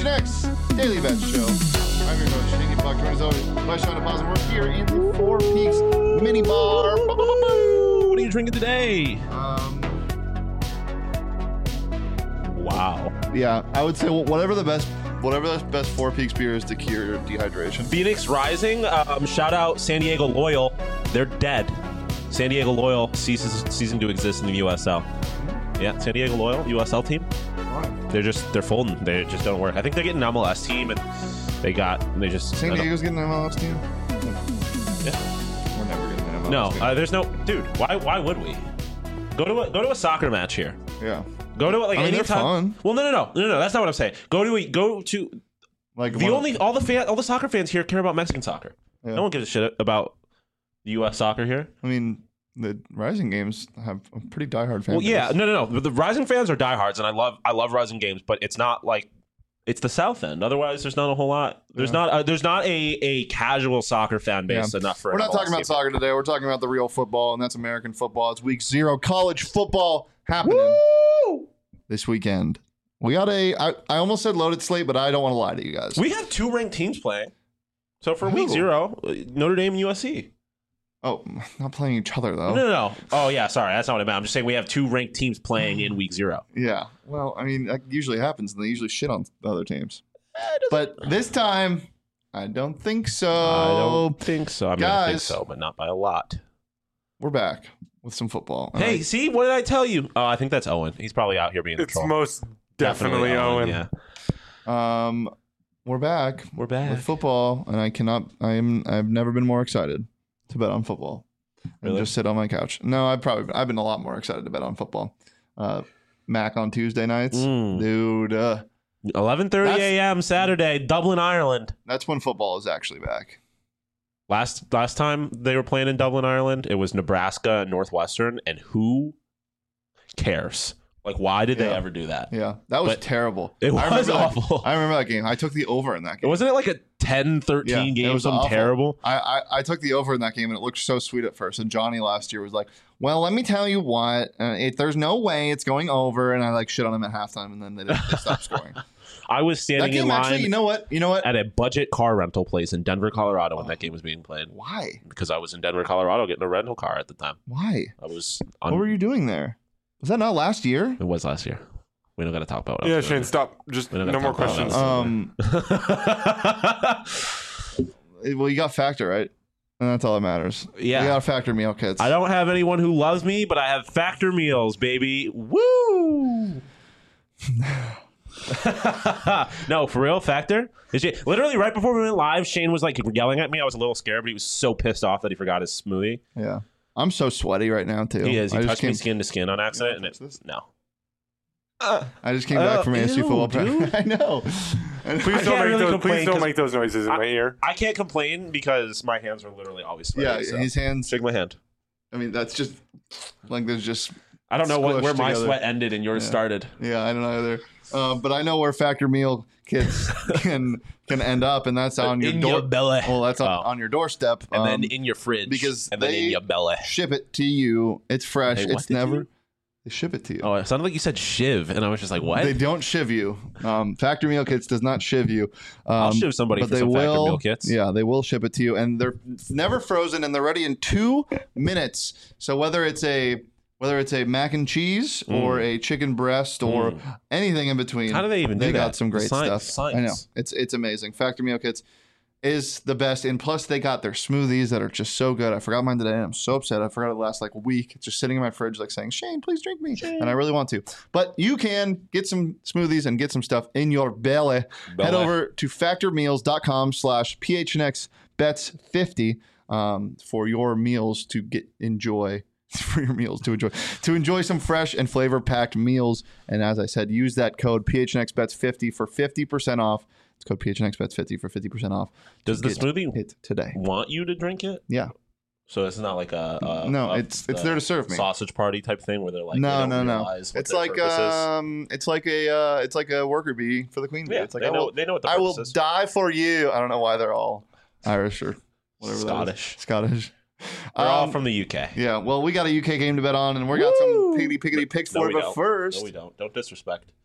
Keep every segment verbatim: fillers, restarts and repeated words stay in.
and X Daily Bet Show. I'm your host, Shane Buck, joined as always by Sean DePazzo. We're here in the Four Peaks Mini Bar. What are you drinking today? Um, Wow. yeah, I would say whatever the best, whatever the best Four Peaks beer is to cure your dehydration. Phoenix Rising. Um, shout out San Diego Loyal. They're dead. San Diego Loyal ceases ceasing to exist in the U S L. Yeah, San Diego Loyal U S L team. They're just they're folding. They just don't work. I think they're getting an M L S team, and they got they just San Diego's getting an M L S team. Yeah. We're never getting an M L S No, team. uh, there's no dude. Why why would we go to a, go to a soccer match here? Yeah. Go to it like I mean, they're anytime. fun. Well, no, no, no, no, no. That's not what I'm saying. Go to a, go to Like the one- only all the fan all the soccer fans here care about Mexican soccer. Yeah. No one gives a shit about U S soccer here. I mean, the Rising games have a pretty diehard fan Well, base. yeah, no, no, no. The, the Rising fans are diehards, and I love, I love Rising games, but it's not like it's the South End. Otherwise, there's not a whole lot. There's Yeah. not, a, there's not a, a casual soccer fan base Yeah. enough for. We're an not talking M L about S team. soccer today. We're talking about the real football, and that's American football. It's week zero, college football happening Woo! this weekend. We got a. I, I almost said loaded slate, but I don't want to lie to you guys. We have two ranked teams playing. So for week Who? zero, uh, Notre Dame and U S C. Oh, not playing each other though. No, no, no. Oh yeah, sorry, that's not what I meant. I'm just saying we have two ranked teams playing in week zero. Yeah. Well, I mean, that usually happens, and they usually shit on the other teams. Eh, it doesn't- But this time, I don't think so. I don't think so. I mean, I think guys. so, but not by a lot. We're back with some football. And Hey, I- see, what did I tell you? Oh, I think that's Owen. He's probably out here being a It's troll. most definitely, Owen. Yeah, um, we're back we're back. with football, and I cannot. I am. I've never been more excited to bet on football. And Really? just sit on my couch. No, I've probably I've been a lot more excited to bet on football. Uh, Mac on Tuesday nights, Mm. dude. Uh, eleven thirty That's- a.m. Saturday, Dublin, Ireland. that's when football is actually back. Last last time they were playing in Dublin, Ireland, it was Nebraska and Northwestern, and who cares? Like, why did they Yeah. ever do that? Yeah, that was But terrible. It I was remember that- awful. I remember that game. I took the over in that game. Wasn't it like a ten thirteen Yeah, it game? was Something awful. terrible. I, I I took the over in that game, and it looked so sweet at first. And Johnny last year was like, "Well, let me tell you what, uh, it, there's no way it's going over." And I like shit on him at halftime, and then they, didn't, they stopped scoring. I was That standing game in line actually, you know what? You know what? at a budget car rental place in Denver, Colorado, when that game was being played. Why? Because I was in Denver, Colorado, getting a rental car at the time. Why? I was What on. were you doing there? Was that not last year? It was last year. We don't got to talk about it. Yeah, Shane, stop. Just We don't no gotta more talk about questions. that. Um, well, you got Factor right, and that's all that matters. Yeah. you got Factor meal kits. I don't have anyone who loves me, but I have Factor meals, baby. Woo! No, for real, Factor. Is she, literally right before we went live, Shane was like yelling at me. I was a little scared, but he was so pissed off that he forgot his smoothie. Yeah, I'm so sweaty right now too. He is. He I just touched me came, skin to skin on accident, and touch it, this? no. I just came Uh, back from A S U ew, football dude. practice. I know. And Please I don't can't make really those. complain Please don't 'cause make those noises in I- my ear. I can't complain because my hands are literally always sweaty. yeah, so. his hands. Shake my hand. I mean, that's just like there's just. I don't know what, Squished where my together. sweat ended and yours Yeah. started. Yeah, I don't know either. Um, but I know where Factor meal kits can can end up, and that's on your in door. your belly. Well, that's on, Oh. on your doorstep. and um, then in your fridge. because and then they- in your belly. ship it to you. It's fresh. They what it's to never. you? They ship it to you. Oh, it sounded like you said shiv, and I was just like, what? They don't shiv you. Um, Factor meal kits does not shiv you. Um, I'll shiv somebody but for they some Factor will, meal kits. Yeah, they will ship it to you, and they're never frozen, and they're ready in two minutes. So whether it's a whether it's a mac and cheese or a chicken breast or Mm. anything in between, How do they even they do got that? some great Sci- stuff. science. I know it's it's amazing. Factor meal kits is the best, and plus they got their smoothies that are just so good. I forgot mine today, and I'm so upset. I forgot it last like week. It's just sitting in my fridge, like saying, "Shane, please drink me," and I really want to. But you can get some smoothies and get some stuff in your belly. Belly. Head over to factormeals.com slash phnx bets 50 um, for your meals to get enjoy. For your meals to enjoy to enjoy some fresh and flavor packed meals. And as I said, use that code P H N X bets fifty for fifty percent off. It's code P H N X bets fifty for fifty percent off. Does the Get smoothie it today? want you to drink it? Yeah. So it's not like a, a No, a- it's it's a there to serve me. sausage party type thing where they're like, no, they don't no, no. realize what It's their like purpose is. um, it's like a uh, it's like a worker bee for the queen bee. Yeah, It's like they I know will, they know what the I purpose will is. die for you. I don't know why they're all Irish or whatever. Scottish. That is. Scottish. They're all Um, from the U K. Yeah, well, we got a U K game to bet on, and we got Woo! some piggity piggity picks No, for we it. But don't. first, No, we don't. Don't disrespect.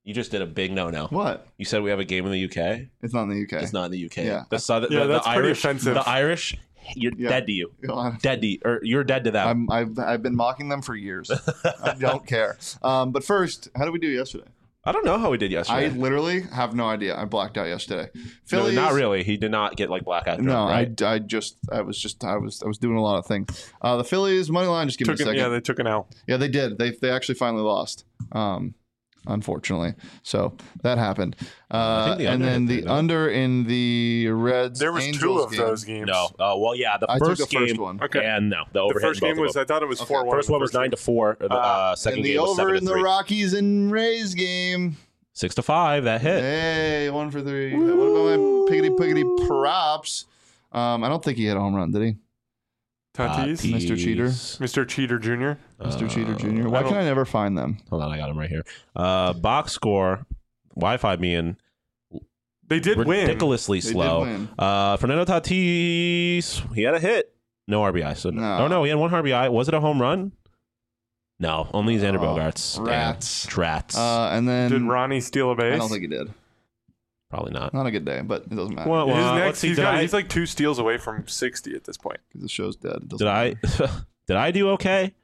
You just did a big no-no. What? You said we have a game in the U K. It's not in the U K. It's not in the U K. Yeah. The Southern, Yeah, the, that's the pretty Irish, offensive. The Irish, you're Yeah. dead to you. You know, Dead to you, or you're dead to them. I'm, I've, I've been mocking them for years. I don't care. Um, but first, how did we do yesterday? I don't know how we did I yesterday. literally have no idea. I blacked out yesterday. no, Phillies, not really. He did not get like blackout drunk, No, right? I, I just I was just I was I was doing a lot of things. Uh, the Phillies money line. Just give Took me a an, second. yeah, they took an L. Yeah, they did. They they actually finally lost. Um, unfortunately, so that happened. Uh, think the and under then hit the there, no? under in the Reds. There was Angels two of game. those games. No. Uh, well, yeah, the I took first the first game. one. Okay. And no, the The overhit. first in both game of was, them. I thought it was Okay. four one. First one was nine to four. The uh, second And the game was over seven in to the three. Rockies and Rays game. Six to five. That hit. Hey, one for three. What about my piggity piggity props? Um, I don't think he hit a home run, did he? Tatis, Mister Cheater. Mister Cheater Junior Mister Cheater Uh, Junior Why I can don't- I never find them? Hold on, I got him right here. Uh, box score. Wi-Fi being They did win. ridiculously They did slow. win. Uh, Fernando Tatis, he had a hit. No R B I. So No. oh no, he had one R B I. Was it a home run? No, only Xander Oh, Bogaerts. Damn. rats. Trats. Uh, and then Did Ronnie steal a base? I don't think he did. Probably not. Not a good day, but it doesn't matter. Well, His well, next, let's see. he's, Did got, I, he's like two steals away from sixty at this point. the show's dead. It doesn't did I matter. did I do okay?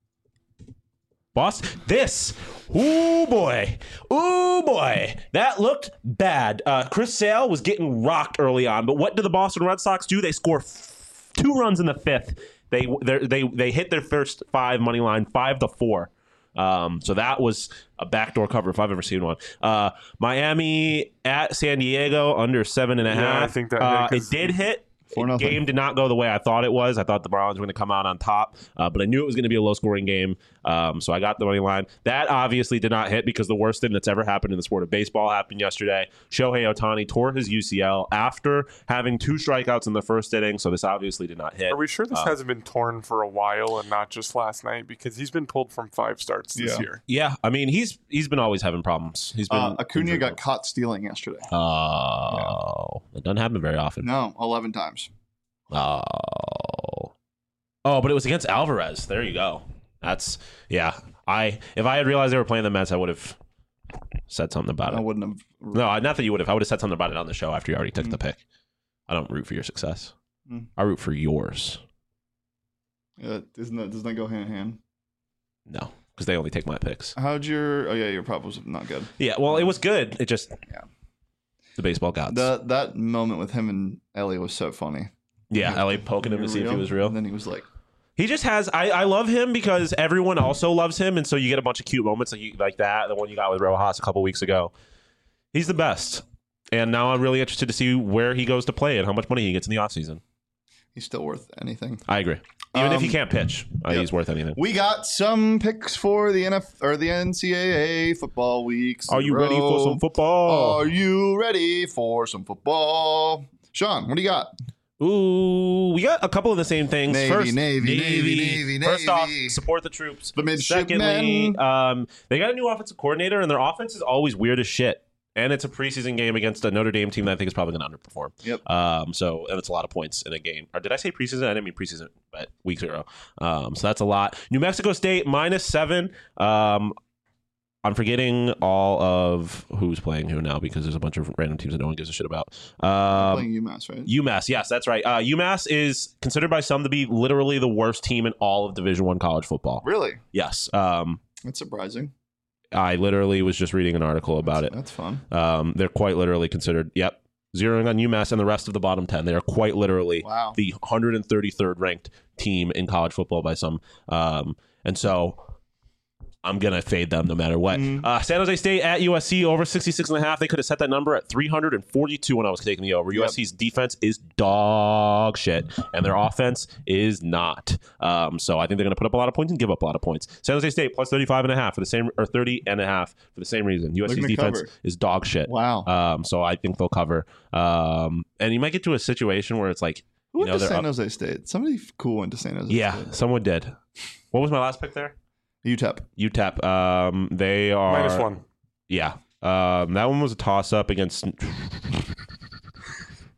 Boss, this. Ooh boy. Ooh boy. That looked bad. Uh, Chris Sale was getting rocked early on, but what do the Boston Red Sox do? They score f- two runs in the fifth. They they they hit their first five money line five to four. Um, so that was a backdoor cover if I've ever seen one. Uh, Miami at San Diego under seven and a Yeah, half. I think that uh, hit it 'cause- did hit. Four The nothing. game did not go the way I thought it was. I thought the Marlins were going to come out on top, uh, but I knew it was going to be a low-scoring game. Um, so I got the money line. That obviously did not hit because the worst thing that's ever happened in the sport of baseball happened yesterday. Shohei Ohtani tore his U C L after having two strikeouts in the first inning. So this obviously did not hit. Are we sure this Uh, hasn't been torn for a while and not just last night? Because he's been pulled from five starts this Yeah. year. Yeah, I mean he's he's been always having problems. He's been Uh, Acuna injured. got caught stealing yesterday. Oh, it doesn't happen very often. No, eleven times. Oh. Oh, but it was against Alvarez. There you go. That's yeah. I if I had realized they were playing the Mets, I would have said something about I it. wouldn't have. No, not that you would have. I would have said something about it on the show after you already took the pick. I don't root for your success. Mm. I root for yours. Uh, isn't that doesn't that go hand in hand? No, because they only take my picks. How'd your? Oh yeah, your prop was not good. Yeah, well, it was good. It just Yeah. the baseball gods. That that moment with him and Ellie was so funny. yeah, L A poking him to see if he was real. And then he was like, He just has. I, I love him because everyone also loves him, and so you get a bunch of cute moments like you, like that. The one you got with Rojas a couple weeks ago. He's the best, and now I'm really interested to see where he goes to play and how much money he gets in the offseason. he's still worth anything. I agree. Even if he Um, can't pitch, uh, yeah. he's worth anything. We got some picks for the N F or the N C double A football weeks. Are in you a ready for row. some football? Are you ready for some football? Sean, what do you got? Ooh, we got a couple of the same things. Navy, First, Navy, Navy, Navy, First off, Navy. support the troops. The midshipmen. Secondly, um, they got a new offensive coordinator, and their offense is always weird as shit. And it's a preseason game against a Notre Dame team that I think is probably going to underperform. Yep. Um. So, and it's a lot of points in a game. Or did I say preseason? I didn't mean preseason, but week zero. Um. So that's a lot. New Mexico State minus seven. Um. I'm forgetting all of who's playing who now because there's a bunch of random teams that no one gives a shit about. Um, Playing UMass, right? UMass, yes, that's right. Uh, UMass is considered by some to be literally the worst team in all of Division One college football. Really? Yes, um, That's surprising. I literally was just reading an article about it. That's fun. Um, they're quite literally considered. Yep, zeroing on UMass and the rest of the bottom ten. They are quite literally Wow. the one hundred thirty-third ranked team in college football by some. Um, and so I'm going to fade them no matter what. Mhm. Uh, San Jose State at U S C over sixty-six and a half. They could have set that number at three hundred forty-two when I was taking the over. Yep. U S C's defense is dog shit, and their offense is not. Um, so I think they're going to put up a lot of points and give up a lot of points. San Jose State plus thirty-five and a half for the same, or thirty and a half for the same reason. U S C's They're gonna defense cover. is dog shit. Wow. Um, so I think they'll cover. Um, and you might get to a situation where it's like, Who you went know, to they're San up- Jose State? Somebody cool went to San Jose yeah, State. someone did. What was my last pick there? U T E P. U T E P. Um, they are Minus one. Yeah. Um, that one was a toss up against.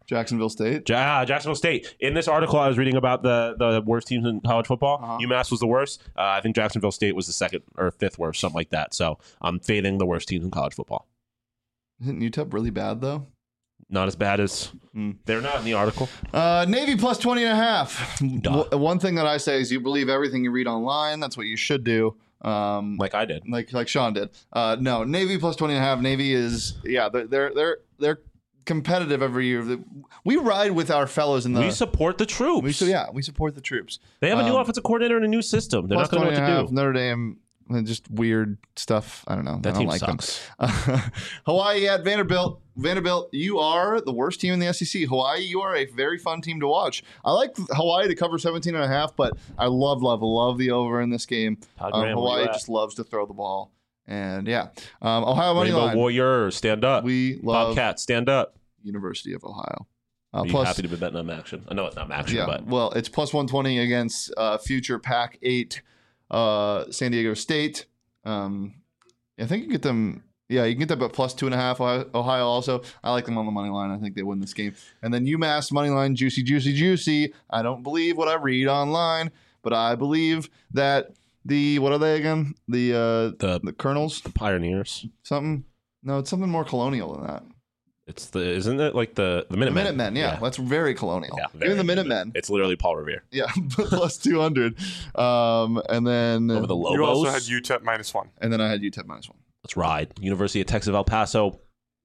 Jacksonville State. Ja- Jacksonville State. In this article I was reading about the, the worst teams in college football, Uh-huh. UMass was the worst. Uh, I think Jacksonville State was the second or fifth worst, something like that. So I'm fading the worst teams in college football. Isn't U T E P really bad, though? Not as bad as Hmm. they're not in the article. Uh, Navy plus twenty and a half. Duh. W- One thing that I say is you believe everything you read online. That's what you should do. Um, Like I did. like like Sean did. Uh, no, Navy plus twenty and a half. Navy is, yeah, they're they're they're, they're competitive every year. We ride with our fellows in the. we support the troops. we so yeah, we support the troops. They have a new Um, offensive coordinator and a new system. They're Plus not going to know twenty what and a to half, do. Notre Dame, uh, just weird stuff. I don't know. That I don't team like sucks. them. Hawaii at Vanderbilt. Vanderbilt, you are the worst team in the S E C. Hawaii, you are a very fun team to watch. I like Hawaii to cover seventeen and a half, but I love, love, love the over in this game. Todd Um, Graham, where Hawaii you at? just loves to throw the ball. And yeah, um, Ohio money Rainbow line. Warriors, stand up. We love Bobcats, stand up. University of Ohio. Uh, Are you plus, happy to be betting on action? I know it's not action, yeah, but well, it's plus one twenty against uh, future Pac eight uh, San Diego State. Um, I think you can get them. Yeah, you can get them at plus two and a half. Ohio, Ohio also. I like them on the money line. I think they win this game. And then UMass money line, juicy, juicy, juicy. I don't believe what I read online, but I believe that the what are they again? The uh, the the Colonels the Pioneers. something. No, it's something more colonial than that. It's the isn't it like the the The Minutemen? Minutemen, yeah, that's very colonial. Yeah, Even the very- Minutemen, It's literally Paul Revere yeah, plus two hundred. Um, and then over the Lobos. You also had U T E P minus one. and then I had U T E P minus one. Let's ride. University of Texas El Paso.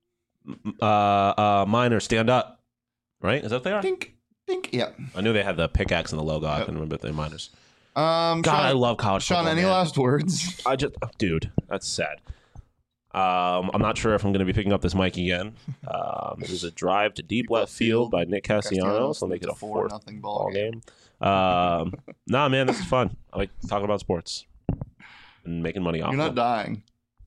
Uh, uh, Miners, stand up. Right? Is that what they are? Dink, dink. Yeah. I knew they had the pickaxe in the logo. I Yep. couldn't remember if they're Miners. Um, God, Sean, I love college Sean, football. any man. last words? I just, oh, dude, that's sad. Um, I'm not sure if I'm going to be picking up this mic again. Um, it was a drive to deep left field by Nick Castellanos. I'll make it a fourth nothing ball ball game. game. Um, nah, man, this is fun. I like talking about sports and making money off You're not them. dying.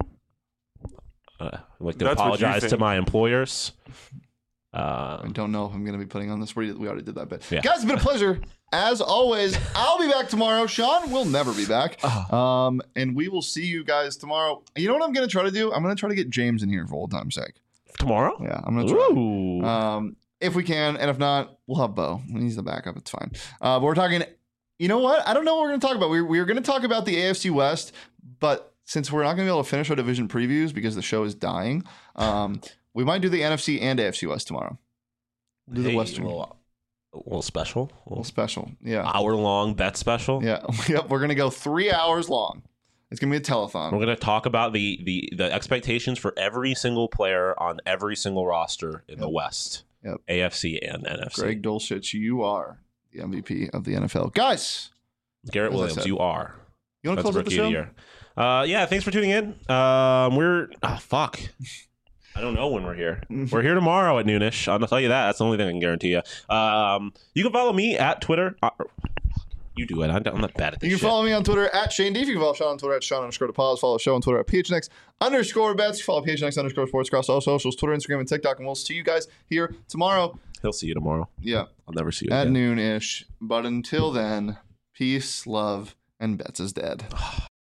Uh, I'd like to That's what you apologize to think. my employers. I Uh, don't know if I'm going to be putting on this. We we already did that bit. Yeah. Guys, it's been a pleasure. As always, I'll be back tomorrow. Sean will never be back. Um, and we will see you guys tomorrow. You know what I'm going to try to do? I'm going to try to get James in here for old time's sake. tomorrow? Yeah, I'm going to try. Ooh. Um, if we can, and if not, we'll have Bo. He's the backup. It's fine. Uh, but we're talking. You know what? I don't know what we're going to talk about. We we were going to talk about the A F C West, but since we're not going to be able to finish our division previews because the show is dying, um, we might do the N F C and A F C West tomorrow. Do the Hey, Western. A little, a little special. A A little little special. Yeah. hour long bet special. Yeah. Yep. We're going to go three hours long. It's going to be a telethon. We're going to talk about the, the, the expectations for every single player on every single roster in the Yep. West. Yep. A F C and N F C. Greg Dulcich, you are the M V P of the N F L. Guys, Garrett As I Williams, said. you are. you want to That's close out the rookie of the show? year. Uh, yeah, thanks for tuning in. Um, we're oh fuck. I don't know when we're here. We're here tomorrow at noonish. I'll tell you that. That's the only thing I can guarantee you. Um, you can follow me at Twitter. Uh, you do it. I'm I'm not bad at this. You can shit. follow me on Twitter at Shane D. If you can follow Sean on Twitter at Sean underscore DePause. Follow the show on Twitter at P H N X underscore bets. Follow P H N X underscore sports across all socials, Twitter, Instagram, and TikTok. And we'll see you guys here tomorrow. He'll see you tomorrow. Yeah, I'll never see you at again. noon ish. But until then, peace, love, and bets is dead.